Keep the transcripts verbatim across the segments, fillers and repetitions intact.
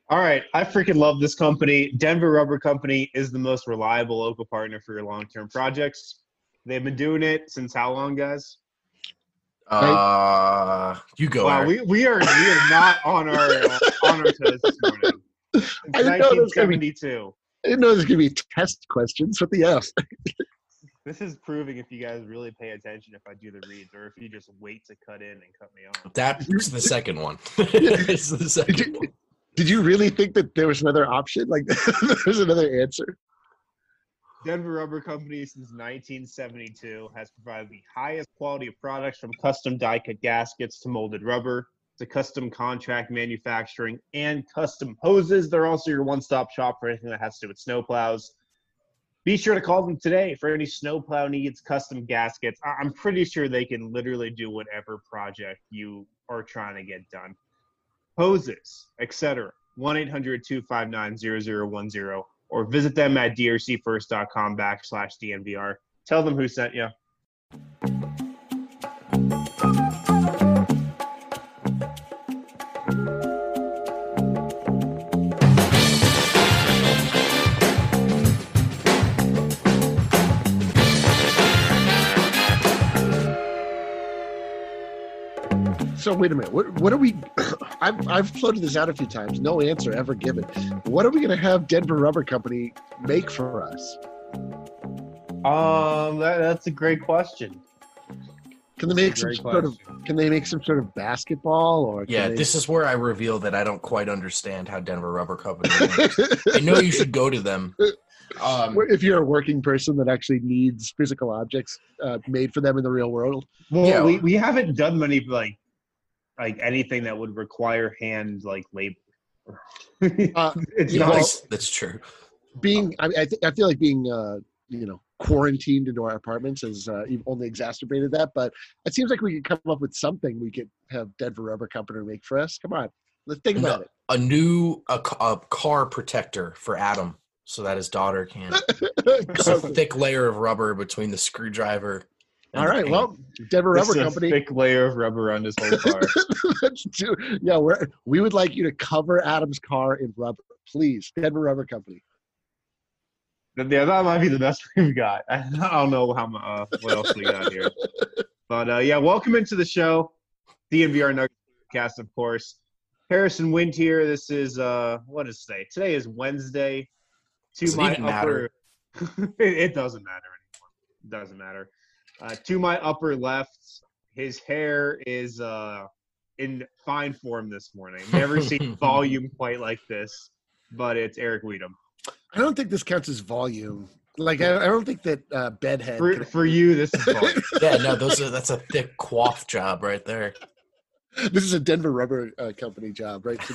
All right, I freaking love this company. Denver Rubber Company is the most reliable local partner for your long-term projects. They've been doing it since how long, guys? Right? Uh, you go, Wow, Eric. we, we are we are not on our uh, on our toes this morning. Since I didn't know there was gonna be- nineteen seventy-two. I didn't know there's going to be test questions. What the F? This is proving if you guys really pay attention if I do the reads or if you just wait to cut in and cut me off. That's the second one. It's the Did second you, one. did you really think that there was another option? Like there's another answer? Denver Rubber Company since nineteen seventy-two has provided the highest quality of products from custom die-cut gaskets to molded rubber to custom contract manufacturing and custom hoses. They're also your one-stop shop for anything that has to do with snowplows. Be sure to call them today for any snowplow needs, custom gaskets. I- I'm pretty sure they can literally do whatever project you are trying to get done. Hoses, et cetera. one eight hundred two five nine zero zero one zero or visit them at drcfirst.com backslash DNVR. Tell them who sent you. So wait a minute. What what are we? I've I've floated this out a few times. No answer ever given. What are we going to have Denver Rubber Company make for us? Um, that, that's a great question. Can they make That's a some great sort of? question. Can they make some sort of basketball or? Can Yeah, they, this is where I reveal that I don't quite understand how Denver Rubber Company works. I know you should go to them. Um, if you're a working person that actually needs physical objects uh, made for them in the real world. Well, Yeah. we, we haven't done many like like anything that would require hand like labor. Uh, it's yeah, not. well, that's, that's true. being, I, I, th- I feel like being, uh, you know, quarantined into our apartments has uh, even only exacerbated that. But it seems like we could come up with something we could have Denver Rubber Company make for us. Come on, let's think about No, it. a new a, ca- a car protector for Adam so that his daughter can. Just a thick layer of rubber between the screwdriver. and All the right, paint. well, Denver Just Rubber a Company. thick layer of rubber around his whole car. Let's do, yeah, we're, we would like you to cover Adam's car in rubber, please. Denver Rubber Company. Yeah, that might be the best we've got. I don't know how mu- uh, what else we got here, but uh, yeah, welcome into the show, D N V R Nuggets podcast, of course. Harrison Wind here. This is uh, what is today? Today is Wednesday. To Does it my even upper, it, it doesn't matter anymore. It doesn't matter. Uh, to my upper left, his hair is uh, in fine form this morning. Never seen volume quite like this, but it's Eric Weedham. I don't think this counts as volume. Like, I, I don't think that uh, bedhead. For, can- for you, this is volume. Yeah, no, those are that's a thick quaff job right there. This is a Denver Rubber uh, Company job, right?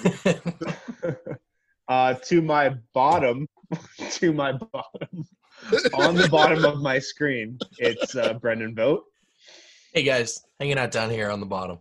uh, to my bottom, to my bottom, on the bottom of my screen, it's uh, Brendan Vogt. Hey guys, hanging out down here on the bottom.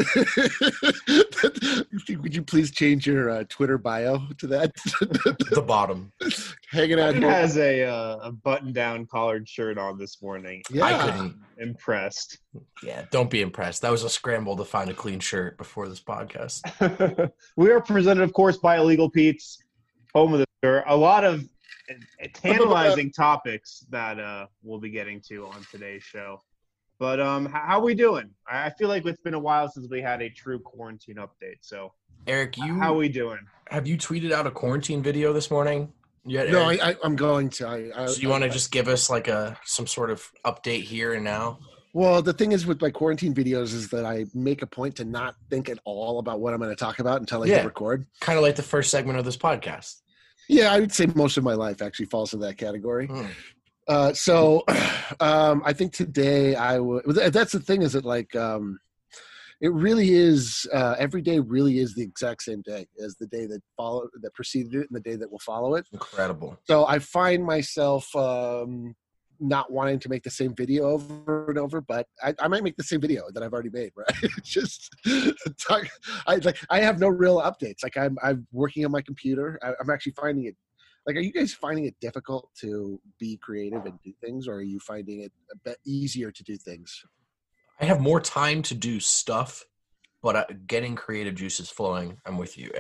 Would you please change your uh, Twitter bio to that? The bottom. Hanging out. Brendan has a, uh, a button-down collared shirt on this morning. Yeah. I couldn't. Impressed. Yeah, don't be impressed. That was a scramble to find a clean shirt before this podcast. We are presented, of course, by Illegal Pete's, home of the store. A lot of tantalizing topics that uh, we'll be getting to on today's show. But um, h- how are we doing? I I feel like it's been a while since we had a true quarantine update. So Eric, you how are we doing? have you tweeted out a quarantine video this morning yet? No, Eric? I, I, I'm going to. I, I, So you want to I- just give us like a some sort of update here and now? Well, the thing is with my quarantine videos is that I make a point to not think at all about what I'm going to talk about until I Yeah. hit record. Kind of like the first segment of this podcast. Yeah, I would say most of my life actually falls in that category. Hmm. Uh, so um, I think today I would. That's the thing is that like um, it really is. Uh, every day really is the exact same day as the day that follow that preceded it and the day that will follow it. Incredible. So I find myself um, not wanting to make the same video over and over, but I, I might make the same video that I've already made. Right? It's just talk, I like I have no real updates. Like I'm I'm working on my computer. I, I'm actually finding it. Like, are you guys finding it difficult to be creative and do things, or are you finding it a bit easier to do things? I have more time to do stuff, but uh, getting creative juices flowing. I'm with you, Eric.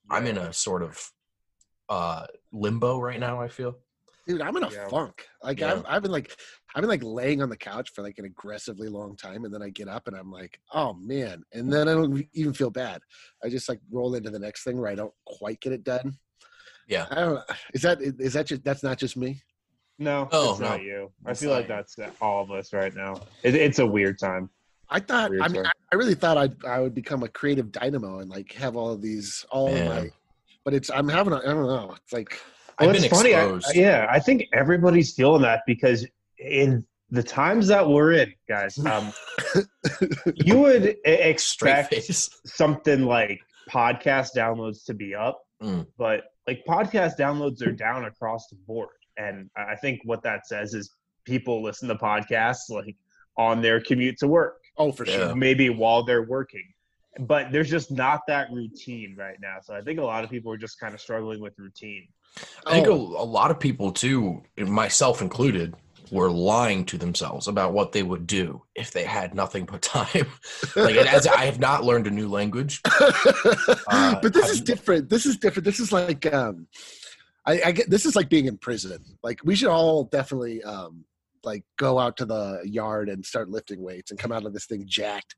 I'm in a sort of uh, limbo right now, I feel. Dude, I'm in a Yeah. funk. Like Yeah. I've, I've been like, I've been like laying on the couch for like an aggressively long time, and then I get up and I'm like, oh man, and then I don't even feel bad. I just like roll into the next thing where I don't quite get it done. Yeah. I don't. Is that is that just that's not just me? No, Oh, it's not no. you. I It's feel not like you. that's all of us right now. It, it's a weird time. I thought. Weird I mean, time. I, I really thought I'd I would become a creative dynamo and like have all of these all of my. Man. But it's I'm having a, I don't know. It's like I've Well, been it's funny. I, exposed. yeah, I think everybody's feeling that because in the times that we're in, guys, um, you would e- Straight expect face. something like podcast downloads to be up, Mm. but like podcast downloads are down across the board, and I think what that says is people listen to podcasts like on their commute to work, oh for Yeah. sure. maybe while they're working. But there's just not that routine right now. So I think a lot of people are just kind of struggling with routine. I think a, a Oh, lot of people too, myself included, were lying to themselves about what they would do if they had nothing but time. Like, as I have not learned a new language. Uh, but this have- is different. This is different. This is like um, I, I get this is like being in prison. Like we should all definitely um, like go out to the yard and start lifting weights and come out of this thing jacked.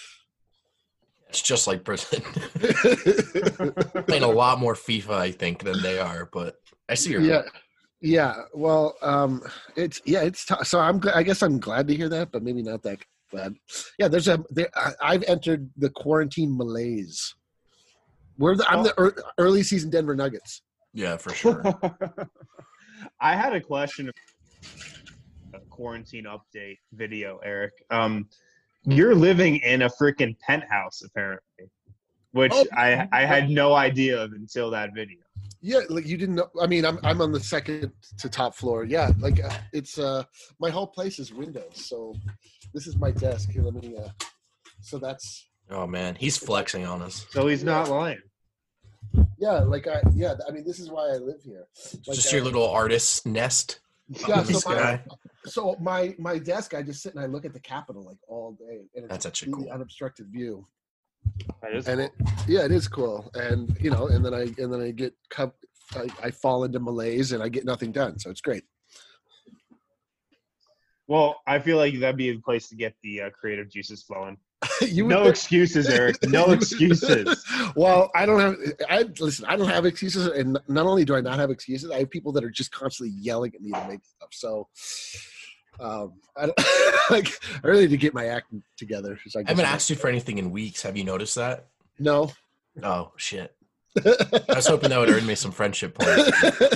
It's just like prison. Playing a lot more FIFA, I think, than they are. But I see your yeah, yeah. Well, um, it's yeah, it's t- so I'm. gl- I guess I'm glad to hear that, but maybe not that glad. Yeah, there's a. There, I, I've entered the quarantine malaise. We're the, I'm the ear early season Denver Nuggets. Yeah, for sure. I had a question. A quarantine update video, Eric. Um, you're living in a freaking penthouse, apparently, which Oh, I I had no idea of until that video. Yeah, like you didn't know. I mean, I'm I'm on the second to top floor. Yeah, like uh, it's uh my whole place is windows. So this is my desk here. Let me. Uh, so that's Oh man, he's flexing on us. So he's not lying. yeah. Like I yeah. I mean, this is why I live here. Like, Just uh, your little artist nest. Yeah, This so my, guy. so my my desk, I just sit and I look at the Capitol like all day, and it's That's a actually completely cool. unobstructed view. That is And cool. it yeah, it is cool. And you know, and then I and then I get co- I, I fall into malaise and I get nothing done. So it's great. Well, I feel like that'd be the place to get the uh, creative juices flowing. you No would- excuses, Eric. No excuses. Well, I don't have. I listen. I don't have excuses, and not only do I not have excuses, I have people that are just constantly yelling at me to make stuff. So, um, I don't, like I really need to get my act together. So I I guess haven't I'm- asked you for anything in weeks. Have you noticed that? No. Oh shit. I was hoping that would earn me some friendship points.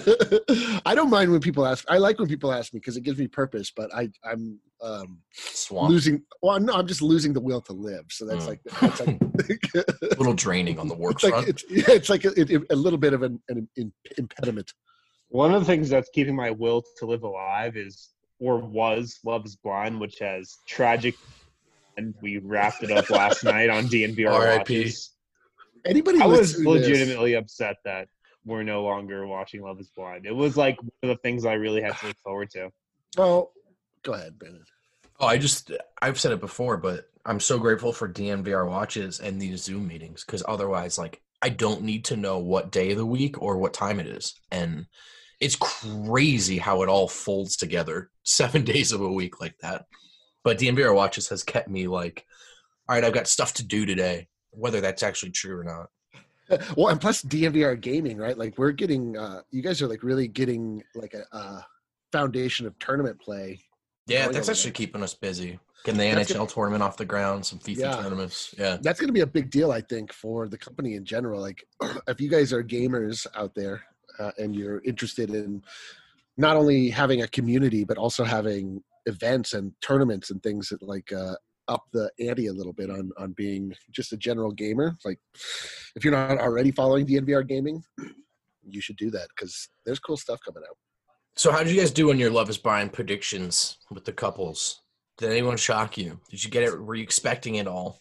I don't mind when people ask. I like when people ask me because it gives me purpose. But I, I'm um, Swamp. losing. Well, no, I'm just losing the will to live. So that's Mm. like that's like. A little draining on the work it's like front. it's, yeah, it's like a, it, a little bit of an, an im- impediment. One of the things that's keeping my will to live alive is, or was, Love is Blind, which has tragic, and we wrapped it up last night on D N V R R I P. watches. Anybody I was listening to this- legitimately upset that we're no longer watching Love is Blind. It was like one of the things I really had to look forward to. Well, go ahead, Brandon. Oh, I just I've said it before, but I'm so grateful for D N V R watches and these Zoom meetings because otherwise, like, I don't need to know what day of the week or what time it is, and it's crazy how it all folds together seven days of a week like that. But D N V R watches has kept me like, all right, I've got stuff to do today, whether that's actually true or not. Well, and plus D N V R gaming, right? Like we're getting, uh, you guys are like really getting like a, a foundation of tournament play. Yeah, going that's over actually there. keeping us busy. Getting the That's N H L tournament off the ground, some FIFA Yeah. tournaments. Yeah. That's going to be a big deal, I think, for the company in general. Like, if you guys are gamers out there uh, and you're interested in not only having a community but also having events and tournaments and things that like uh, up the ante a little bit on on being just a general gamer. Like, if you're not already following D N V R gaming, you should do that because there's cool stuff coming out. So how did you guys do on your Love is Blind predictions with the couples? Did anyone shock you? Did you get it? Were you expecting it all?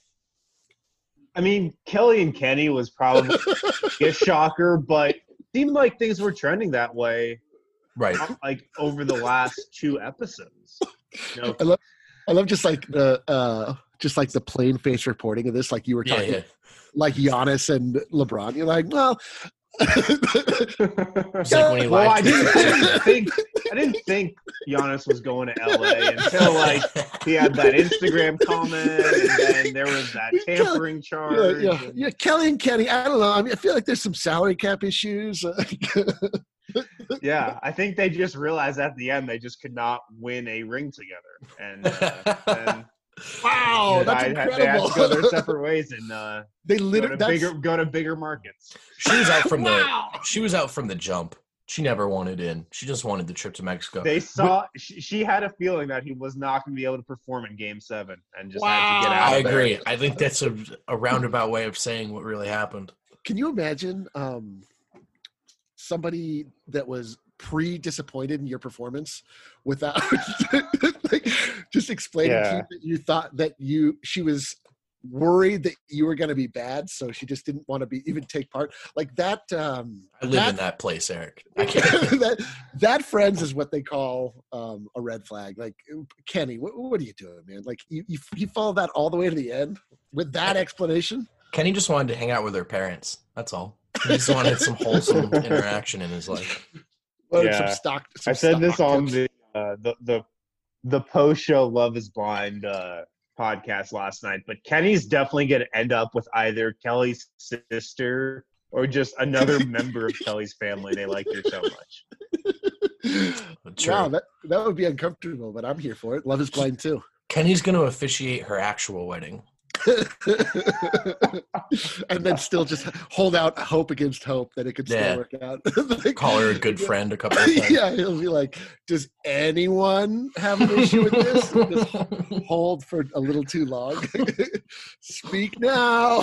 I mean, Kelly and Kenny was probably a shocker, but it seemed like things were trending that way Right. like over the last two episodes. You know, I love, I love just like the uh, just like the plain face reporting of this. Like you were Yeah, talking, yeah. like Giannis and LeBron. You're like, well, It's like when he well, I lied. didn't, I didn't think I didn't think Giannis was going to L A until like he had that Instagram comment, and then there was that tampering yeah, charge. yeah, and- yeah. Kelly and Kenny. I don't know. I mean, I feel like there's some salary cap issues. Yeah, I think they just realized at the end they just could not win a ring together, and uh, then Wow, they that's had- incredible. They had to go their separate ways and uh, They go, literally to that's, bigger, go to bigger markets. She was out from Wow. the she was out from the jump. She never wanted in. She just wanted the trip to Mexico. They saw she, she had a feeling that he was not going to be able to perform in Game Seven, and just had to get Wow. out. I of there. agree. I think that's a, a roundabout way of saying what really happened. Can you imagine um, somebody that was pre-disappointed in your performance without like, just explaining to Yeah. you that you thought that you she was worried that you were going to be bad, so she just didn't want to be even take part like that. Um, I live that, in that place, Eric. I can't. that that friends is what they call um, a red flag. Like Kenny, what, what are you doing, man? Like you, you you follow that all the way to the end with that explanation. Kenny just wanted to hang out with her parents. That's all. He just wanted some wholesome interaction in his life. Well, Yeah. some stock. Some I said this stock on tips. the uh, the the the post show Love Is Blind uh, podcast last night, but Kenny's definitely going to end up with either Kelly's sister or just another member of Kelly's family. They like her so much. True. Wow, that that would be uncomfortable, but I'm here for it. Love is blind too. Kenny's going to officiate her actual wedding. And then still just hold out hope against hope that it could still Yeah. work out. Like, Call her a good friend a couple of times. yeah, he'll be like, "Does anyone have an issue with this? Just hold for a little too long. Speak now."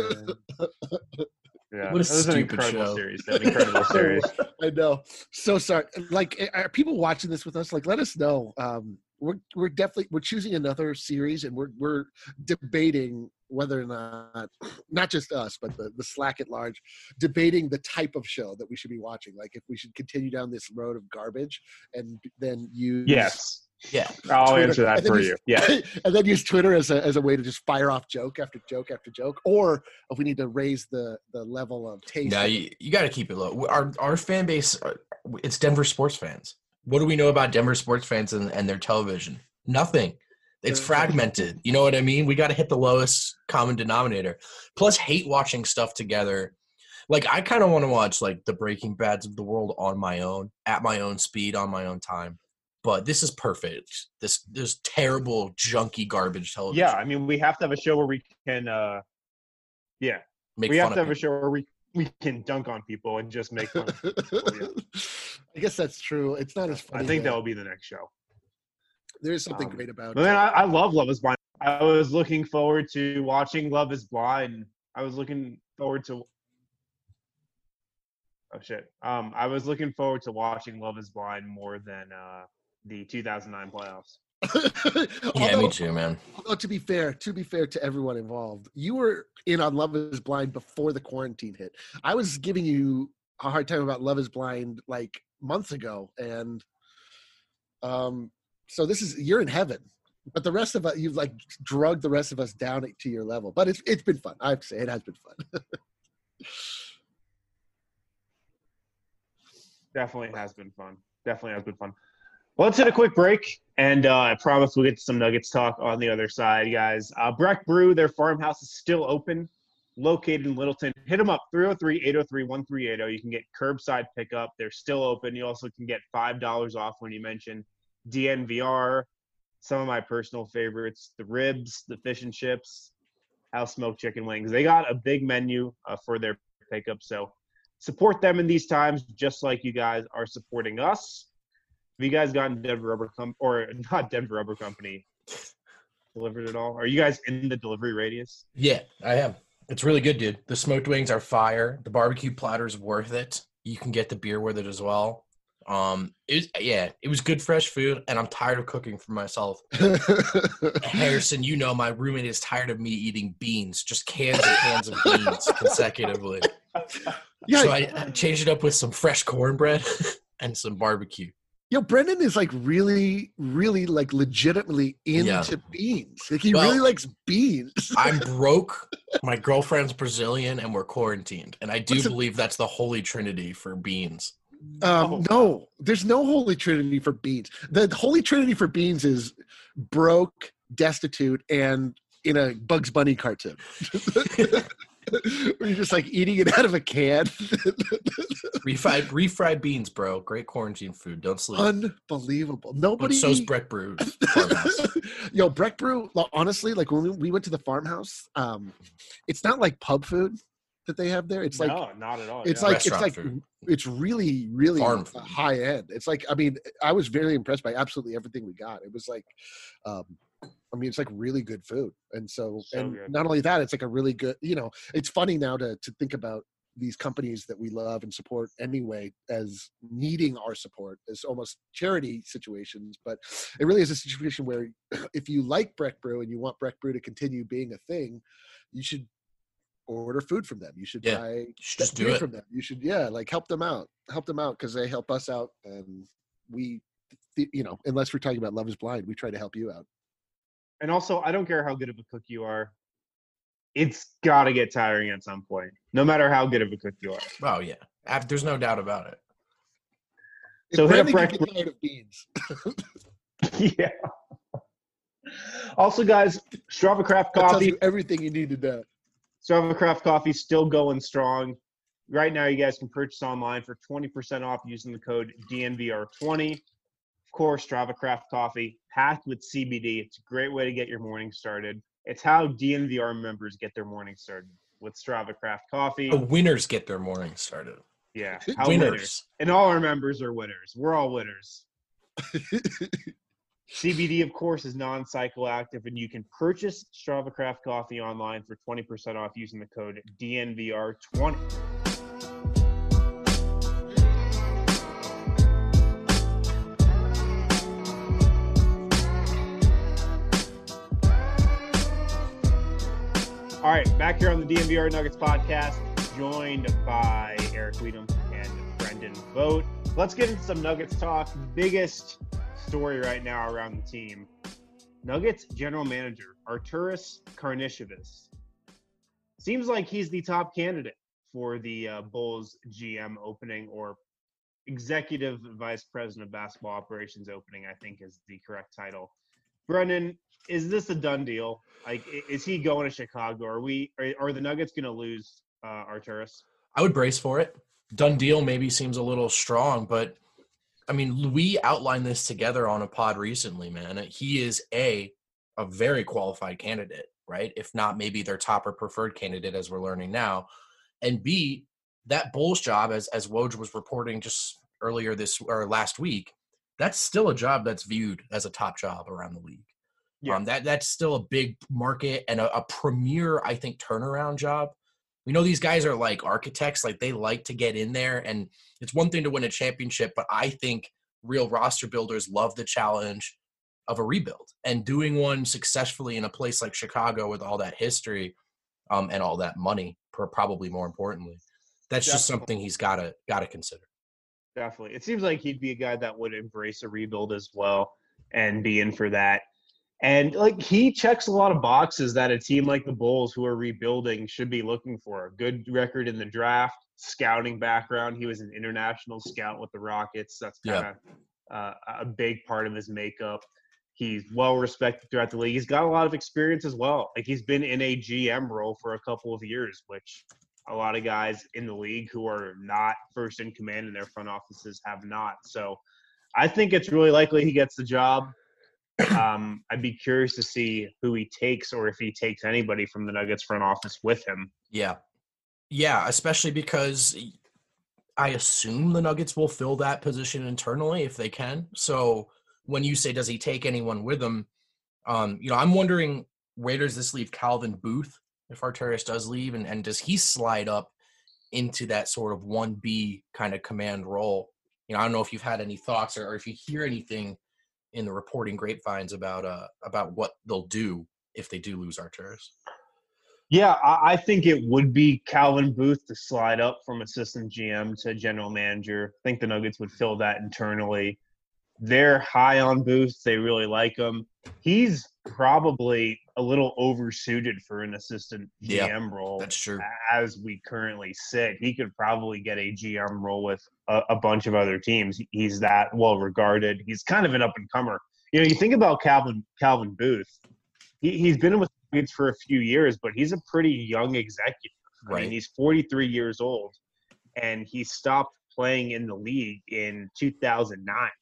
Yeah, What a that was an stupid incredible show. series. An incredible series. I know. So sorry. Like, are people watching this with us? Like, let us know. Um, we're we're definitely we're choosing another series, and we're we're debating whether or not, not just us, but the the Slack at large, debating the type of show that we should be watching. Like, if we should continue down this road of garbage, and then use Yes, Yeah. I'll Twitter. answer that And then for use- you. Yeah, and then use Twitter as a as a way to just fire off joke after joke after joke, or if we need to raise the the level of taste. No, you, you got to keep it low. Our our fan base, uh, it's Denver sports fans. What do we know about Denver sports fans and, and their television? Nothing. It's Yeah. fragmented. You know what I mean? We got to hit the lowest common denominator. Plus, hate watching stuff together. Like, I kind of want to watch, like, the Breaking Bads of the world on my own, at my own speed, on my own time. But this is perfect. This this terrible, junky, garbage television. yeah. I mean, we have to have a show where we can. Uh, yeah, Make we fun have to of have a people. show where we we can dunk on people and just make fun. Of people. I guess that's true. It's not as funny. I think though. that will be the next show. There's something um, great about. But then uh, I, I love Love Is Blind. I was looking forward to watching Love Is Blind. I was looking forward to. Oh shit! Um, I was looking forward to watching Love Is Blind more than uh, the two thousand nine playoffs. Yeah, although, me too, man. although to be fair, to be fair to everyone involved, you were in on Love Is Blind before the quarantine hit. I was giving you a hard time about Love Is Blind like months ago, and um, so this is you're in heaven. But the rest of us, you've like drugged the rest of us down to your level. But it's it's been fun. I have to say, it has been fun. Definitely has been fun. Definitely has been fun. Well, let's hit a quick break, and uh, I promise we'll get to some Nuggets talk on the other side, guys. Uh, Breck Brew, their farmhouse is still open, located in Littleton. Hit them up, three oh three, eight oh three, one three eight oh. You can get curbside pickup. They're still open. You also can get five dollars off when you mention D N V R. Some of my personal favorites, the ribs, the fish and chips, house smoked chicken wings. They got a big menu uh, for their pickup, so support them in these times, just like you guys are supporting us. Have you guys gotten Denver Rubber Com- or not Denver Rubber Company delivered at all? Are you guys in the delivery radius? Yeah, I am. It's really good, dude. The smoked wings are fire. The barbecue platter is worth it. You can get the beer with it as well. Um, it was, yeah, it was good fresh food, and I'm tired of cooking for myself. Harrison, you know my roommate is tired of me eating beans, just cans and cans of beans consecutively. Yeah, So I, I changed it up with some fresh cornbread and some barbecue. Yo, Brendan is like really, really like legitimately into Yeah. beans. Like he Well, really likes beans. I'm broke. My girlfriend's Brazilian, and we're quarantined. And I do What's a- believe that's the holy trinity for beans. Um, Oh, no, there's no holy trinity for beans. The holy trinity for beans is broke, destitute, and in a Bugs Bunny cartoon. Where you're just like eating it out of a can. refried, refried beans, bro. Great quarantine food. Don't sleep. Unbelievable. But Nobody. so's Breck Brew's farmhouse. Yo, Breck Brew, lo- honestly, like when we- we went to the farmhouse, um, it's not like pub food that they have there. It's like no, not at all. it's yeah. like it's Restaurant like food. it's really really Farm food. high end. It's like I mean I was very impressed by absolutely everything we got. It was like, um, I mean it's like really good food, and so, So and good. not only that, it's like a really good. You know, it's funny now to to think about these companies that we love and support anyway as needing our support as almost charity situations, but it really is a situation where if you like Breck Brew and you want Breck Brew to continue being a thing, you should order food from them. You should Yeah, buy should just do beer it. from them. You should, yeah, like help them out, help them out because they help us out, and we, you know, unless we're talking about Love Is Blind, we try to help you out. And also, I don't care how good of a cook you are. It's got to get tiring at some point, no matter how good of a cook you are. Oh, yeah. Ab- There's no doubt about it. So If hit up Brandon Breck can get tired of beans. Yeah. Also, guys, Strava Craft That tells Coffee. you everything you need to know. Strava Craft Coffee still going strong. Right now, you guys can purchase online for twenty percent off using the code D N V R twenty. Of course, Strava Craft Coffee, packed with C B D. It's a great way to get your morning started. It's how D N V R members get their morning started, with Strava Craft Coffee. The winners get their morning started. Yeah, how Winners. winners. And all our members are winners. We're all winners. C B D, of course, is non-psychoactive, and you can purchase Strava Craft Coffee online for twenty percent off using the code D N V R twenty. All right, back here on the D N V R Nuggets podcast, joined by Eric Weedham and Brendan Vogt. Let's get into some Nuggets talk. Biggest story right now around the team. Nuggets general manager Arturas Karnisovas seems like he's the top candidate for the uh, Bulls G M opening, or executive vice president of basketball operations opening, I think is the correct title. Brendan, is this a done deal? Like, is he going to Chicago? Are we? Are, are the Nuggets going to lose uh, Arturas? I would brace for it. Done deal maybe seems a little strong, but I mean, we outlined this together on a pod recently, man. He is a a very qualified candidate, right? If not, maybe their top or preferred candidate, as we're learning now. And B, that Bulls job, as as Woj was reporting just earlier this or last week, that's still a job that's viewed as a top job around the league. Yeah. Um, that that's still a big market and a, a premier, I think, turnaround job. We know these guys are like architects, like they like to get in there, and it's one thing to win a championship, but I think real roster builders love the challenge of a rebuild, and doing one successfully in a place like Chicago with all that history um, and all that money, per, probably more importantly, that's just Definitely. something he's got to got to consider. Definitely. It seems like he'd be a guy that would embrace a rebuild as well and be in for that. And, like, he checks a lot of boxes that a team like the Bulls, who are rebuilding, should be looking for. A good record in the draft, scouting background. He was an international scout with the Rockets. That's kind of Yeah. uh, a big part of his makeup. He's well-respected throughout the league. He's got a lot of experience as well. Like, he's been in a G M role for a couple of years, which a lot of guys in the league who are not first in command in their front offices have not. So I think it's really likely he gets the job. Um, I'd be curious to see who he takes, or if he takes anybody from the Nuggets front office with him. Yeah. Yeah, especially because I assume the Nuggets will fill that position internally if they can. So when you say, does he take anyone with him? Um, you know, I'm wondering, where does this leave Calvin Booth if Arturas does leave? And, and does he slide up into that sort of one B kind of command role? You know, I don't know if you've had any thoughts or, or if you hear anything in the reporting grapevines about uh about what they'll do if they do lose Arturas. Yeah, I, I think it would be Calvin Booth to slide up from assistant G M to general manager. I think the Nuggets would fill that internally. they're high on Booth. They really like him. He's probably a little oversuited for an assistant G M Yeah, role. that's true. As we currently sit, he could probably get a G M role with a, a bunch of other teams. He's that well regarded. He's kind of an up and comer. You know, you think about Calvin Calvin Booth. He, he's been with the Nuggets for a few years, but he's a pretty young executive. I Right. mean, he's forty-three years old, and he stopped playing in the league in two thousand nine.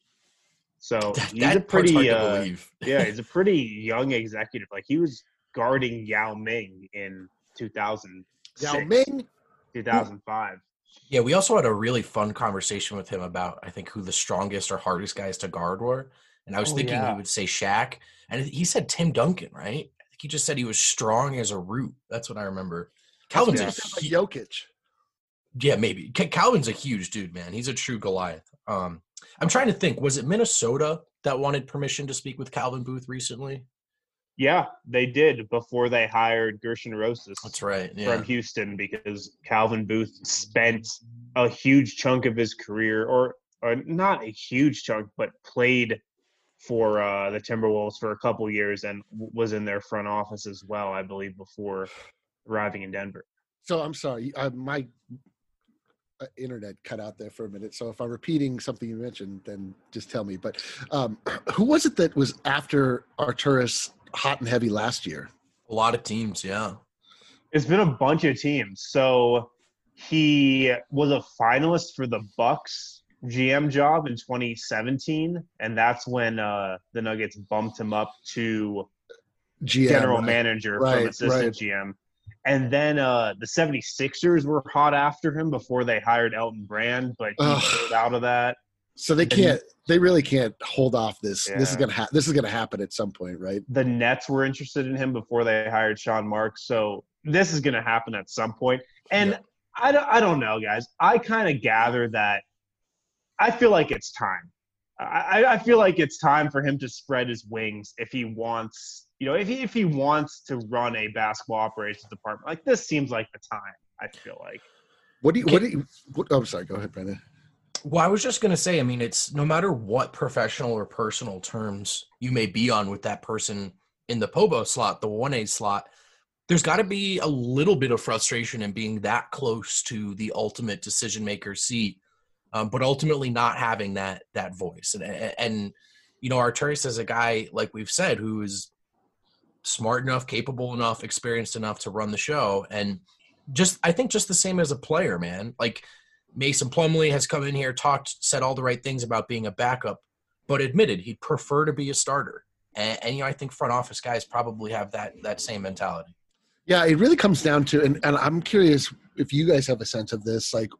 So That, he's that a part's hard pretty, to uh, believe. yeah, he's a pretty young executive. Like he was guarding Yao Ming in two thousand six, Yao Ming, two thousand five. Yeah, we also had a really fun conversation with him about, I think, who the strongest or hardest guys to guard were. And I was Oh, thinking yeah. he would say Shaq. And he said Tim Duncan, right? I think he just said he was strong as a root. That's what I remember. Calvin's Yeah. a, like hu- Jokic. yeah, maybe. Ca- Calvin's a huge dude, man. He's a true Goliath. Um, I'm trying to think. Was it Minnesota that wanted permission to speak with Calvin Booth recently? Yeah, they did before they hired Gershon Rosas That's right. Yeah. from Houston, because Calvin Booth spent a huge chunk of his career, or, or not a huge chunk, but played for uh, the Timberwolves for a couple years and w- was in their front office as well, I believe, before arriving in Denver. So I'm sorry, uh, my uh, internet cut out there for a minute. So if I'm repeating something you mentioned, then just tell me. But um, who was it that was after Arturas hot and heavy last year? A lot of teams, yeah. It's been a bunch of teams. So he was a finalist for the Bucks G M job in twenty seventeen, and that's when uh, the Nuggets bumped him up to G M, general right. manager Right, from assistant right. G M. And then uh, the seventy-sixers were hot after him before they hired Elton Brand, but he Ugh. pulled out of that. So they can't. They really can't hold off this. This is Yeah. gonna. Ha- this is gonna happen at some point, right? The Nets were interested in him before they hired Sean Marks. So this is going to happen at some point. And Yeah. I, don't, I don't know, guys. I kind of gather that I feel like it's time. I, I feel like it's time for him to spread his wings if he wants, you know, if he, if he wants to run a basketball operations department. Like, this seems like the time, I feel like. What do you? What do you? What, oh, I'm sorry. Go ahead, Brandon. Well, I was just going to say, I mean, it's no matter what professional or personal terms you may be on with that person in the P O B O slot, the one A slot, there's got to be a little bit of frustration in being that close to the ultimate decision maker seat, um, but ultimately not having that that voice. And, and you know, Arturas is a guy, like we've said, who is smart enough, capable enough, experienced enough to run the show. And just, I think just the same as a player, man. Like, Mason Plumlee has come in here, talked, said all the right things about being a backup, but admitted he'd prefer to be a starter. And, and you know, I think front office guys probably have that that same mentality. Yeah, it really comes down to, and, and I'm curious if you guys have a sense of this, like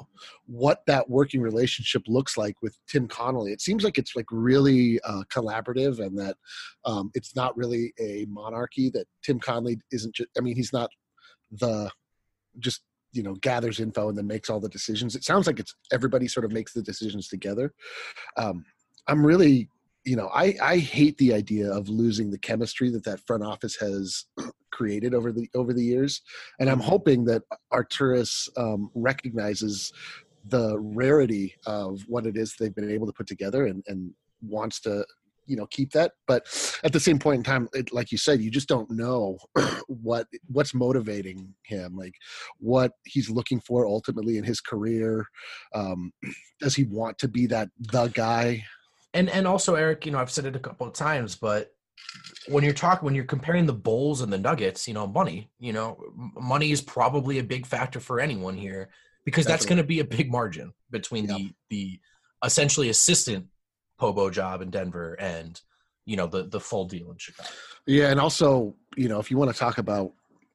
what that working relationship looks like with Tim Connolly. It seems like it's like really uh, collaborative, and that um, it's not really a monarchy. That Tim Connolly isn't just, I mean, he's not the just, you know, gathers info and then makes all the decisions. It sounds like it's everybody sort of makes the decisions together. Um, I'm really, you know, I, I hate the idea of losing the chemistry that that front office has created over the over the years, and I'm hoping that Arturas um, recognizes the rarity of what it is they've been able to put together, and, and wants to, you know, keep that. But at the same point in time, it, like you said, you just don't know what what's motivating him, like what he's looking for ultimately in his career. Um, does he want to be that the guy? And and also, Eric, you know, I've said it a couple of times, but when you're talking, when you're comparing the Bulls and the Nuggets, you know, money, you know, money is probably a big factor for anyone here, because that's Definitely. going to be a big margin between Yep. the the essentially assistant P O B O job in Denver and, you know, the the full deal in Chicago. Yeah, and also, you know, if you want to talk about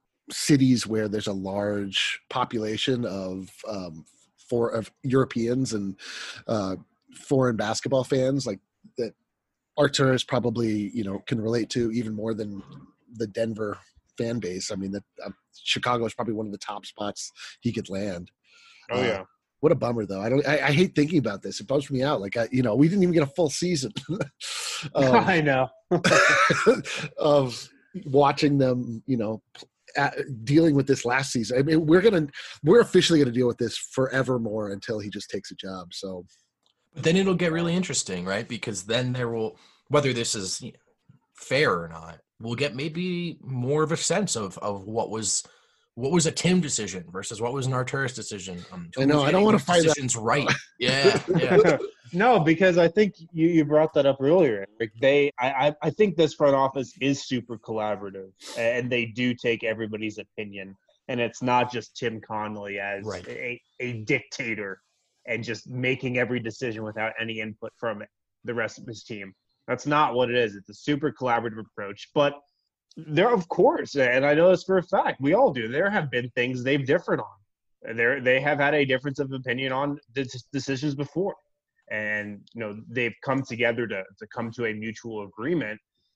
cities where there's a large population of um, for of Europeans and uh, foreign basketball fans, like that, Arturas probably, you know, can relate to even more than the Denver fan base. I mean, that uh, Chicago is probably one of the top spots he could land. Oh, Uh, yeah. What a bummer, though. I don't. I, I hate thinking about this. It bums me out. Like, I, you know, we didn't even get a full season of, I know. of watching them. You know, at, dealing with this last season. I mean, we're gonna we're officially gonna deal with this forevermore until he just takes a job. So, But then it'll get really interesting, right? Because then there will, whether this is fair or not, we'll get maybe more of a sense of of what was what was a Tim decision versus what was an Arturas decision. Um, I know. I don't want to fight decisions that. right. Yeah, yeah. No, because I think you, you brought that up earlier. Like they, I, I I think this front office is super collaborative, and they do take everybody's opinion, and it's not just Tim Connolly as Right. a, a dictator and just making every decision without any input from the rest of his team. That's not what it is. It's a super collaborative approach. But there, of course, and I know this for a fact, we all do. There have been things they've differed on. There, they have had a difference of opinion on the decisions before. And, you know, they've come together to, to come to a mutual agreement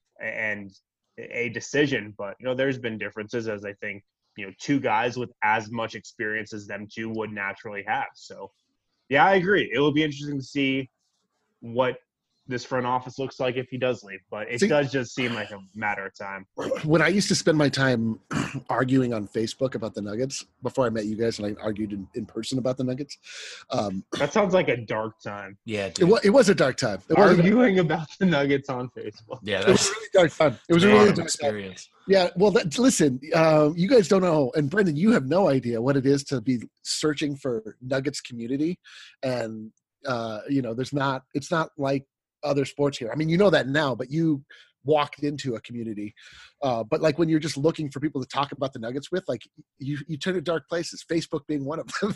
and a decision. But, you know, there's been differences, as I think, you know, two guys with as much experience as them two would naturally have. So, yeah, I agree. It will be interesting to see what this front office looks like if he does leave. But it See, does just seem like a matter of time. When I used to spend my time arguing on Facebook about the Nuggets before I met you guys, and I argued in, in person about the Nuggets. Um, That sounds like a dark time. Yeah, it dude. was, it was a dark time. It was, a, Arguing about the Nuggets on Facebook. Yeah, it was that's a really dark time. It was a a really lot dark of time. experience. Yeah, well, that, listen, uh, you guys don't know, and Brendan, you have no idea what it is to be searching for Nuggets community, and uh, you know, there's not. It's not like other sports here. I mean, you know that now, but you walked into a community. Uh, but like when you're just looking for people to talk about the Nuggets with, like you, you turn to dark places. Facebook being one of them.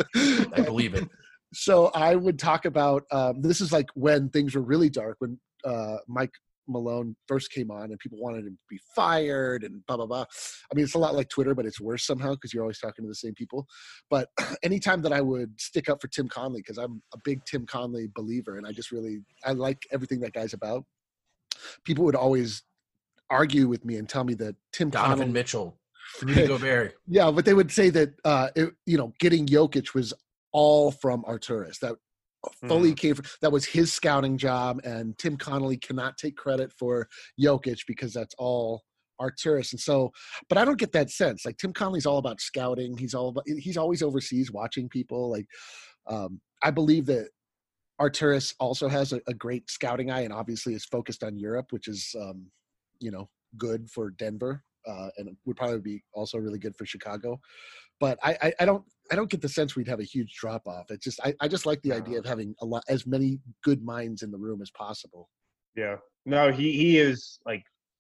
I believe it. So I would talk about um, this is like when things were really dark, when uh, Mike Malone first came on and people wanted him to be fired and blah, blah, blah. I mean, it's a lot like Twitter, but it's worse somehow because you're always talking to the same people. But anytime that I would stick up for Tim Connolly, because I'm a big Tim Connolly believer and I just really, I like everything that guy's about, people would always argue with me and tell me that Tim Donovan Connolly, Mitchell, Rudy Gobert. yeah, but they would say that, uh, it, you know, getting Jokic was all from Arturas. That fully Mm. came from, that was his scouting job, and Tim Connolly cannot take credit for Jokic because that's all Arturas. And so, but I don't get that sense. Like Tim Connolly's all about scouting. He's all about, he's always overseas watching people. Like, um, I believe that Arturas also has a, a great scouting eye and obviously is focused on Europe, which is, um, you know, good for Denver. Uh, and would probably be also really good for Chicago. But I, I, I don't I don't get the sense we'd have a huge drop off. It's just I, I just like the idea of having a lot as many good minds in the room as possible. Yeah. No, he, he is like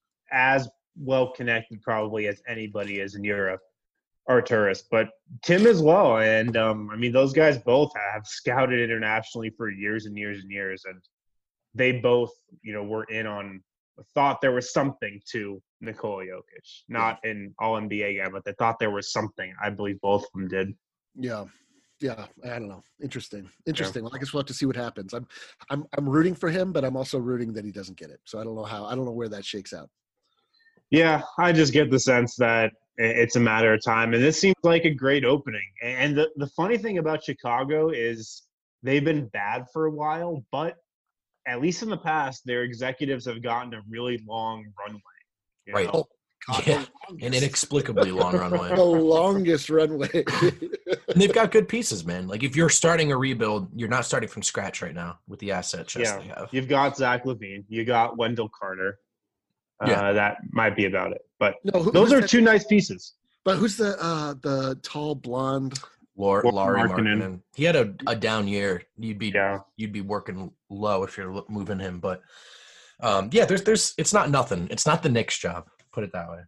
as well connected probably as anybody is in Europe, Arturas, but Tim as well. And um, I mean, those guys both have scouted internationally for years and years and years. And they both, you know, were in on, thought there was something to Nikola Jokic, not an all N B A guy, but they thought there was something. I believe both of them did. Yeah. Yeah. I don't know. Interesting. Interesting. Well, I guess we'll have to see what happens. I'm I'm I'm rooting for him, but I'm also rooting that he doesn't get it. So I don't know how I don't know where that shakes out. Yeah, I just get the sense that it's a matter of time. And this seems like a great opening. And the, the funny thing about Chicago is they've been bad for a while, but at least in the past, their executives have gotten a really long runway. you Right. know? God, Yeah, the an longest- inexplicably long runway. the longest runway. And they've got good pieces, man. Like if you're starting a rebuild, you're not starting from scratch right now with the asset chest Yeah. they have. You've got Zach LaVine. You got Wendell Carter. Uh, Yeah. That might be about it. But No, who- those who's are that- two nice pieces. But who's the uh the tall blonde? Lar- Laurie Laurie Markkinen. Markkinen. He had a, a down year. You'd be Yeah. you'd be working low if you're lo- moving him. But um, yeah, there's there's it's not nothing. It's not the Knicks' job. Put it that way.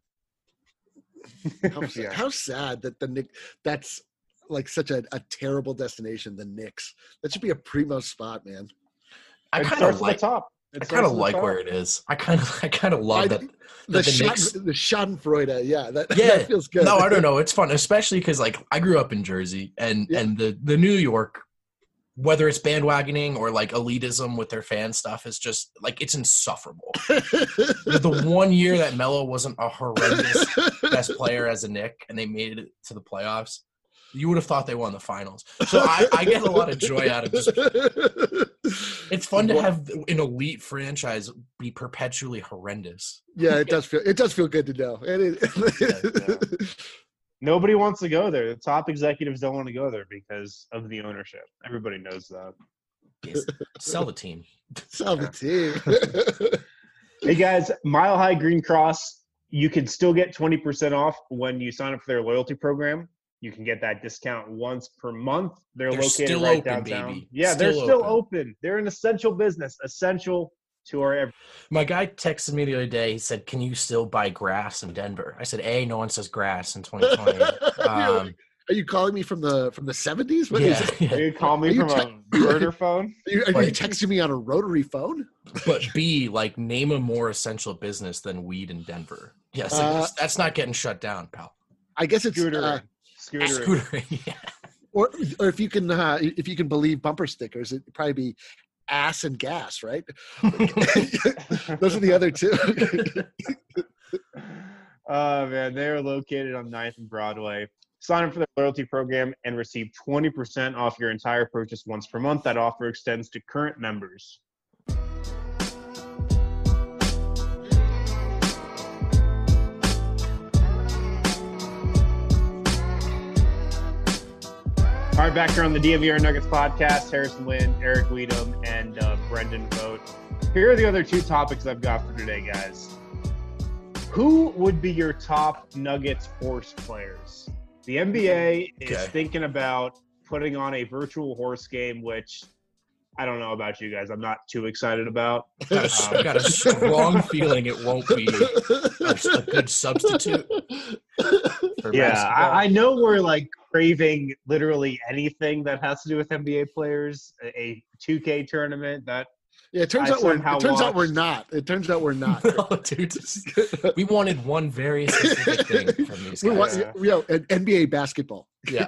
How, sad- Yeah. how sad that the Knicks, that's like such a, a terrible destination, the Knicks. That should be a primo spot, man. I It kind starts of at like the top. It I starts kind of at the like top. where it is. I kind of I kind of love I- that. The, that the Schaden, Knicks. the Schadenfreude, yeah, that, Yeah. that feels good. No, I don't know. It's fun, especially because like I grew up in Jersey, and Yeah. and the the New York, whether it's bandwagoning or like elitism with their fan stuff, is just like it's insufferable. the, the one year that Melo wasn't a horrendous best player as a Knick, and they made it to the playoffs, you would have thought they won the finals. So I, I get a lot of joy out of just. It's fun to have an elite franchise be perpetually horrendous. Yeah, it does feel it does feel good to know. It is. Nobody wants to go there. The top executives don't want to go there because of the ownership. Everybody knows that. Yes. Sell the team. Sell the team. Hey guys, Mile High Green Cross, you can still get twenty percent off when you sign up for their loyalty program. You can get that discount once per month. They're, They're located still right open, downtown. baby. Yeah, Still they're still open. open. They're an essential business, essential to our every. My guy texted me the other day. He said, "Can you still buy grass in Denver?" I said, "A, no one says grass in twenty twenty." Um, Are you calling me from the from the seventies? What is yeah, it? yeah. You call me Are you from a murder phone? Are you, are you Like- texting me on a rotary phone? But B, like, name a more essential business than weed in Denver. Yes, Uh, that's, that's not getting shut down, pal. I guess it's Scooter. uh, Scooter. Scooter, yeah. or or if you can uh, if you can believe bumper stickers, it'd probably be ass and gas, right? Those are the other two. Oh, man. They are located on ninth and Broadway. Sign up for the loyalty program and receive twenty percent off your entire purchase once per month. That offer extends to current members. All right, back here on the D N V R Nuggets podcast, Harrison Wind, Eric Weedham, and uh, Brendan Vogt. Here are the other two topics I've got for today, guys. Who would be your top Nuggets horse players? The N B A is Okay. thinking about putting on a virtual horse game, which I don't know about you guys. I'm not too excited about. Got a, I've got a strong feeling it won't be a, a good substitute for Yeah, basketball. I, I know we're like craving literally anything that has to do with N B A players. A, a two K tournament that Yeah, it turns I out we're somehow it turns out we're watched- not. It turns out we're not. No, dude, just- we wanted one very specific thing from these We guys. want, Yeah. you know, an N B A basketball. Yeah,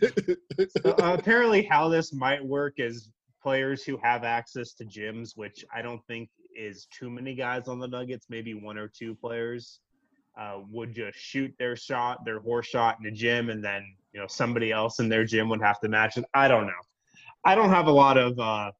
uh, apparently how this might work is players who have access to gyms, which I don't think is too many guys on the Nuggets, maybe one or two players, uh, would just shoot their shot, their horse shot in the gym, and then you know somebody else in their gym would have to match it. I don't know. I don't have a lot of uh,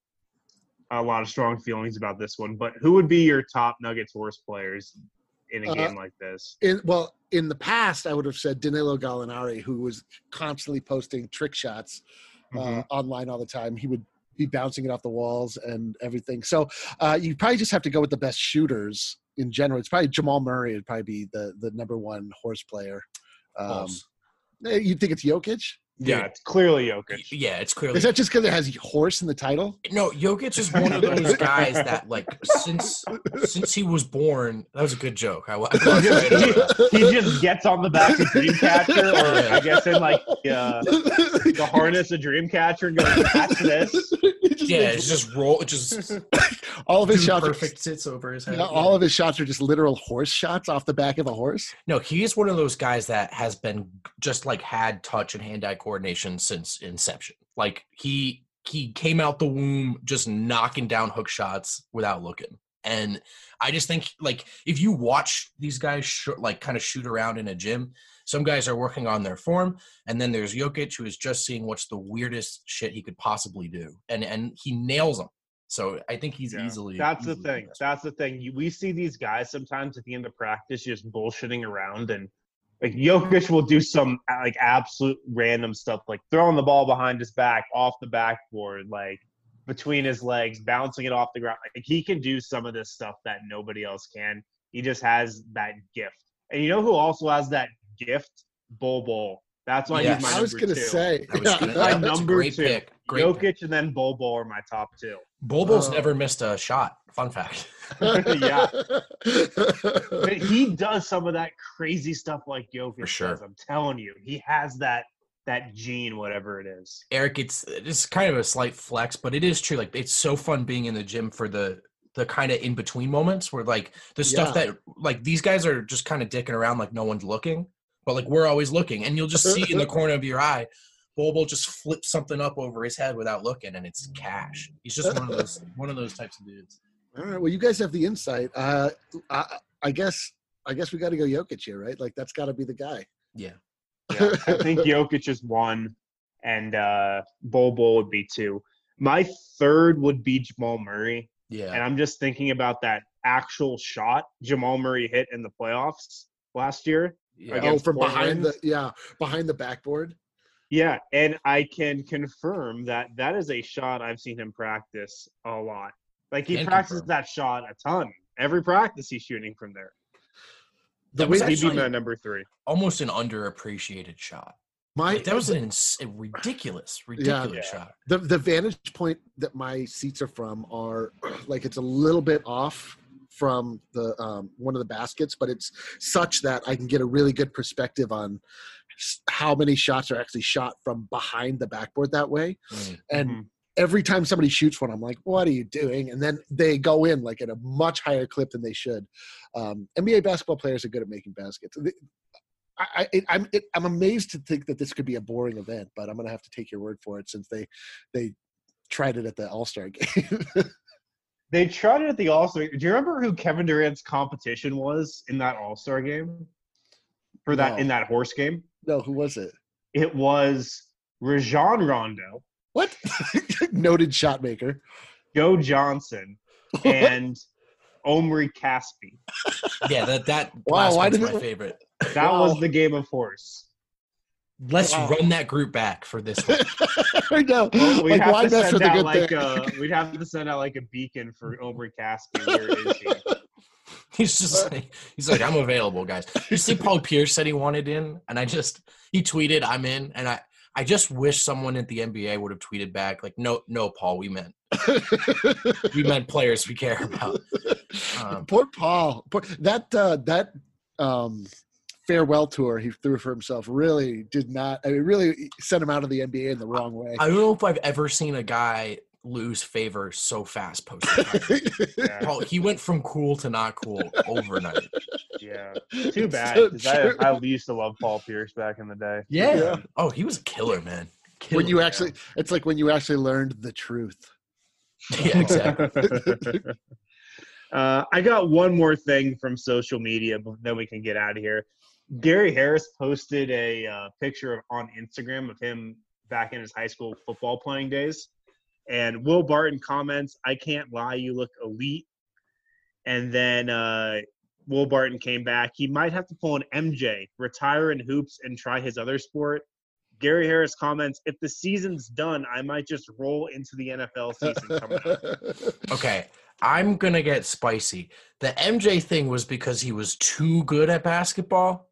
a lot of strong feelings about this one, but who would be your top Nuggets horse players in a Uh, game like this? In, well, in the past, I would have said Danilo Gallinari, who was constantly posting trick shots uh, Mhm. online all the time. He would be bouncing it off the walls and everything. So uh, you probably just have to go with the best shooters in general. It's probably Jamal Murray would probably be the, the number one horse player. Um, False. eh, you think it's Jokic? Yeah, it's clearly Jokic. Yeah, it's clearly Is that just because it has horse in the title? no. Jokic is one of those guys that, like, since since he was born, that was a good joke. I, I He just, he just gets on the back of Dreamcatcher, or I guess in like uh, the harness of Dreamcatcher and goes, "That's this." yeah, it's just roll. It just all of his dude shots. perfect sits over his head. Yeah, all of his shots are just literal horse shots off the back of a horse. No, he's one of those guys that has been just like had touch and hand-eye coordination since inception. Like he he came out the womb just knocking down hook shots without looking. And I just think like if you watch these guys sh- like kind of shoot around in a gym, some guys are working on their form, and then there's Jokic who is just seeing what's the weirdest shit he could possibly do, and and he nails them. So I think he's Yeah. easily. That's the easily thing. best. That's the thing. You, we see these guys sometimes at the end of practice just bullshitting around, and like Jokic will do some like absolute random stuff, like throwing the ball behind his back, off the backboard, like between his legs, bouncing it off the ground. Like he can do some of this stuff that nobody else can. He just has that gift. And you know who also has that gift? Bol Bol. That's why Yes. he's my I was number gonna two. say, That was yeah. good. My Yeah, that's a number great two. pick. Great Jokic pick. and then Bol Bol are my top two. Bobo's Oh. never missed a shot. Fun fact. Yeah. But he does some of that crazy stuff like Jokic For sure. does. I'm telling you, he has that that gene, whatever it is. Eric, it's it's kind of a slight flex, but it is true. Like it's so fun being in the gym for the the kind of in between moments where like the stuff Yeah. that like these guys are just kind of dicking around like no one's looking, but like we're always looking, and you'll just see in the corner of your eye, Bobo just flips something up over his head without looking, and it's cash. He's just one of those one of those types of dudes. All right. Well, you guys have the insight. Uh, I, I guess. I guess we got to go Jokic here, right? Like that's got to be the guy. Yeah. Yeah, I think Jokic is one, and uh, Bol Bol would be two. My third would be Jamal Murray, Yeah. and I'm just thinking about that actual shot Jamal Murray hit in the playoffs last year. Yeah. Against Oh, from behind the Portland. yeah behind the backboard. Yeah, and I can confirm that that is a shot I've seen him practice a lot. Like he Can practices confirm. that shot a ton. Every practice he's shooting from there. The That was way He'd be actually my number three. almost an underappreciated shot. my Like, that was an ins- a ridiculous, ridiculous Yeah. shot. the the vantage point that my seats are from are like it's a little bit off from the um, one of the baskets, but it's such that I can get a really good perspective on s- how many shots are actually shot from behind the backboard that way. Mm. And Mhm. every time somebody shoots one, I'm like, what are you doing? And then they go in like at a much higher clip than they should. Um, N B A basketball players are good at making baskets. They- I, I, it, I'm it, I'm amazed to think that this could be a boring event, but I'm going to have to take your word for it since they they tried it at the All-Star game. They tried it at the All-Star. Do you remember who Kevin Durant's competition was in that All-Star game? For that No. in that horse game? No, who was it? It was Rajon Rondo, What? Noted shot maker. Joe Johnson, and Omri Caspi. Yeah, that that Wow, last why one's did my it- favorite. That Wow. was the game of horse. Let's Wow. run that group back for this one. I know. Well, we'd Like, have why to mess send with a out good like thing? a we'd have to send out like a beacon for Omri Caspi. Where is he? He's just like, he's like, I'm available, guys. You see, Paul Pierce said he wanted in, and I just he tweeted, I'm in, and I I just wish someone at the N B A would have tweeted back like, no, no, Paul, we meant we meant players we care about. Um, Poor Paul. Poor, that uh, that um, farewell tour he threw for himself really did not. I mean, really sent him out of the N B A in the wrong way. I don't know if I've ever seen a guy lose favor so fast post Yeah. Paul, he went from cool to not cool overnight. Yeah. Too bad. So 'cause I, true. I used to love Paul Pierce back in the day. Yeah. Oh, he was a killer, man. Killer. When you actually, it's like when you actually learned the truth. yeah, exactly. uh, I got one more thing from social media, but then we can get out of here. Gary Harris posted a uh, picture of, on Instagram of him back in his high school football playing days. And Will Barton comments, "I can't lie, you look elite." And then uh, Will Barton came back. He might have to pull an M J, retire in hoops, and try his other sport. Gary Harris comments, "If the season's done, I might just roll into the N F L season coming up." Okay, I'm gonna get spicy. The M J thing was because he was too good at basketball.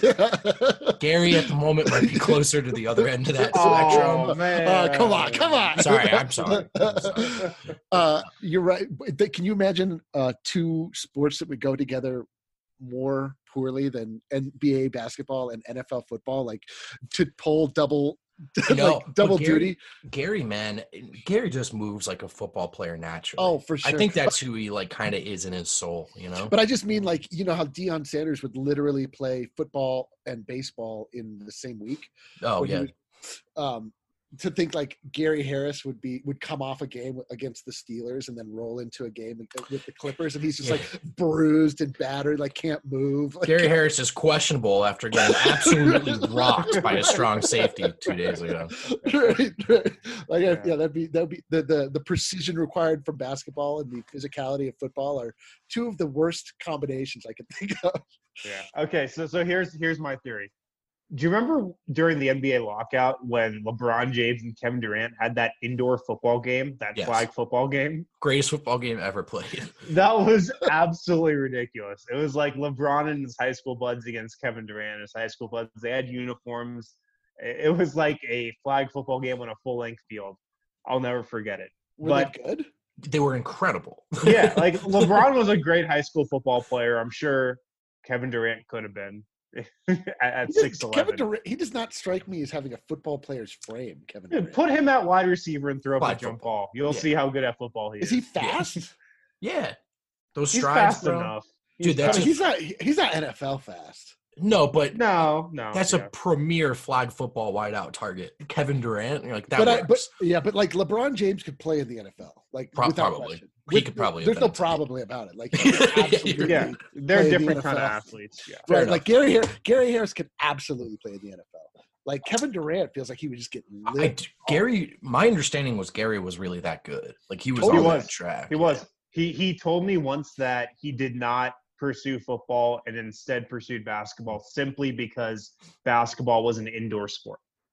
Gary at the moment might be closer to the other end of that Oh, spectrum. man. Uh, come on, come on. Sorry, I'm sorry. I'm sorry. Uh, you're right. But Can you imagine uh, two sports that would go together more poorly than N B A basketball and N F L football? Like to pull double, No, like double but Gary- duty. Gary, man, Gary just moves like a football player naturally. Oh, for sure. I think that's who he like kind of is in his soul, you know. But I just mean like, you know how Deion Sanders would literally play football and baseball in the same week. Oh when he yeah, was- um, to think like Gary Harris would be would come off a game against the Steelers and then roll into a game with the Clippers, and he's just like bruised and battered, like can't move. Like, Gary Harris is questionable after getting absolutely rocked by a strong safety two days ago. right, right. Like yeah. Yeah. yeah, that'd be that'd be the, the the precision required from basketball and the physicality of football are two of the worst combinations I can think of. Yeah. Okay. So so here's here's my theory. Do you remember during the N B A lockout when LeBron James and Kevin Durant had that indoor football game, that Yes. flag football game? Greatest football game ever played. That was absolutely ridiculous. It was like LeBron and his high school buds against Kevin Durant and his high school buds. They had uniforms. It was like a flag football game on a full length field. I'll never forget it. Were But- they good? They were incredible. Yeah, like LeBron was a great high school football player. I'm sure Kevin Durant could have been at, at He does- six Kevin eleven. Durant, he does not strike me as having a football player's frame. Kevin Durant. Put him at wide receiver and throw up Flag a jump football. ball. You'll Yeah. see how good at football he is. Is he fast? Yeah, those He's strides, fast bro. enough. Dude, He's that's I fast- mean, he's not. He's not N F L fast. No, but no, no. that's yeah. a premier flag football wideout target. Kevin Durant, you're like that but I, works. but yeah, but like LeBron James could play in the N F L. Like Pro- without probably. question. He could probably have There's been no a team. probably about it. Like he could absolutely yeah, they're play in the different kind of N F L. athletes. Yeah. Fair Right, enough. like Gary Har- Gary Harris could absolutely play in the N F L. Like Kevin Durant feels like he would just get I, lit. Gary, my understanding was Gary was really that good. Like he was Totally on was. that track. He was. He he told me once that he did not pursue football and instead pursued basketball simply because basketball was an indoor sport.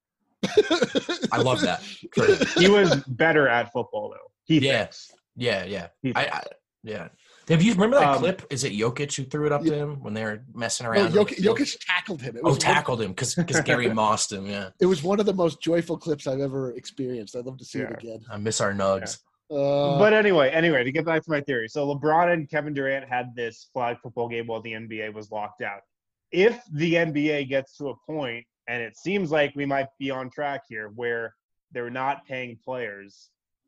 I love that. For him. He was better at football though. He Yeah. thinks. Yeah, yeah. He I, thinks. I yeah. Have you remember that Um, clip? Is it Jokic who threw it up Yeah. to him when they were messing No, around? on the Jokic, field? Jokic tackled him. It Oh, was one, tackled him because Gary mossed him. Yeah, it was one of the most joyful clips I've ever experienced. I'd love to see it Yeah. again. I miss our Nugs. Uh, But anyway, anyway, to get back to my theory. So LeBron and Kevin Durant had this flag football game while the N B A was locked out. If the N B A gets to a point, and it seems like we might be on track here, where they're not paying players,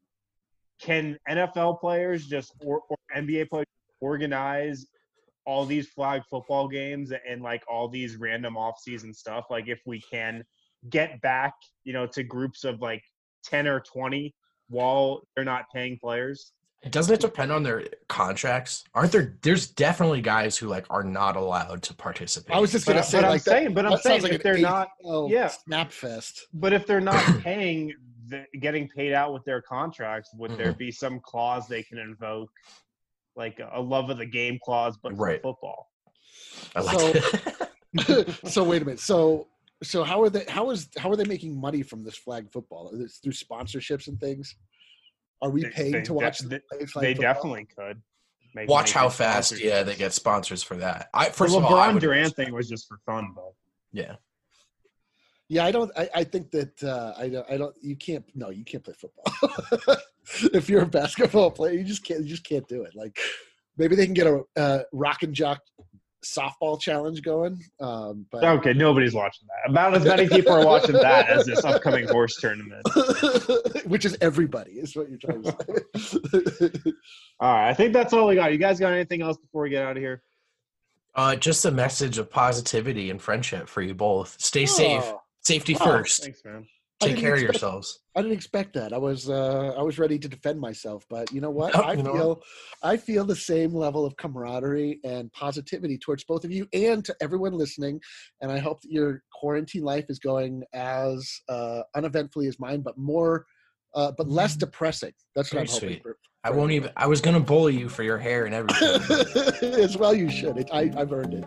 can N F L players just or, or N B A players organize all these flag football games and like all these random off-season stuff? Like if we can get back, you know, to groups of like ten or twenty while they're not paying players. Doesn't it depend on their contracts? Aren't there? There's definitely guys who like are not allowed to participate. I was just But, gonna I- say, but I'm like that- saying, but I'm that saying sounds like if an they're not, A C L yeah. snap fest. but if they're not paying, the, getting paid out with their contracts, would there Mhm. be some clause they can invoke, like a love of the game clause, but Right. for football? I like So- it. So wait a minute. So so how are they? How is how are they making money from this flag football? Is it through sponsorships and things? Are we They- paying they to watch de- the They, flag they football? definitely could. Make Watch money how from fast, sponsorships. yeah, they get sponsors for that. I The first LeBron of all, I would, Durant thing was just for fun, but yeah. Yeah, I don't. I, I think that uh, I don't. I don't. You can't. No, you can't play football. If you're a basketball player, you just can't. You just can't do it. Like maybe they can get a uh, rock and jock softball challenge going. Um, but okay, nobody's watching that. About as many people are watching that as this upcoming horse tournament. which is everybody is what you're trying to say. All right, I think that's all we got. You guys got anything else before we get out of here? Uh, just a message of positivity and friendship for you both. Stay safe. Oh, Safety Oh, first. Thanks, man. I Take didn't care of expect- yourselves. I didn't expect that. I was uh, I was ready to defend myself, but you know what? Oh, I you know feel I feel the same level of camaraderie and positivity towards both of you and to everyone listening. And I hope that your quarantine life is going as uh, uneventfully as mine, but more, uh, but less depressing. That's what Very I'm hoping sweet. for. I won't even. I was gonna bully you for your hair and everything. As well, you should. It, I, I've earned it.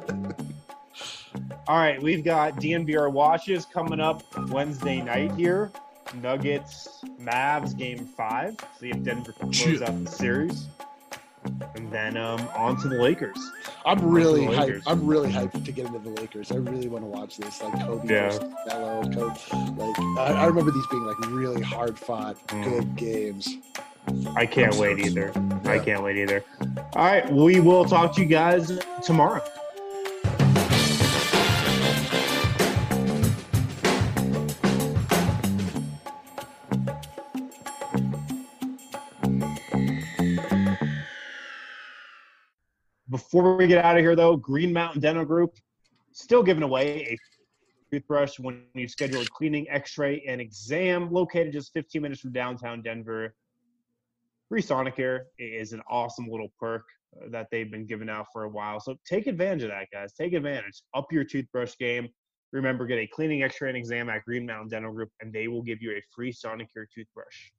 All right, we've got D N V R watches coming up Wednesday night here. Nuggets, Mavs, game five. See if Denver can close Shoot. out the series. And then um, on to the Lakers. I'm really the hyped. Lakers. I'm really hyped to get into the Lakers. I really want to watch this. Like Kobe Yeah. versus Melo. Kobe, like I, I remember these being like really hard fought, Mm. good games. I can't I'm wait stoked. either. I Yeah. can't wait either. All right, we will talk to you guys tomorrow. Before we get out of here, though, Green Mountain Dental Group still giving away a toothbrush when you schedule a cleaning, x-ray, and exam located just fifteen minutes from downtown Denver. Free Sonicare is an awesome little perk uh, that they've been giving out for a while. So take advantage of that, guys. Take advantage. Up your toothbrush game. Remember, get a cleaning, x-ray, and exam at Green Mountain Dental Group, and they will give you a free Sonicare toothbrush.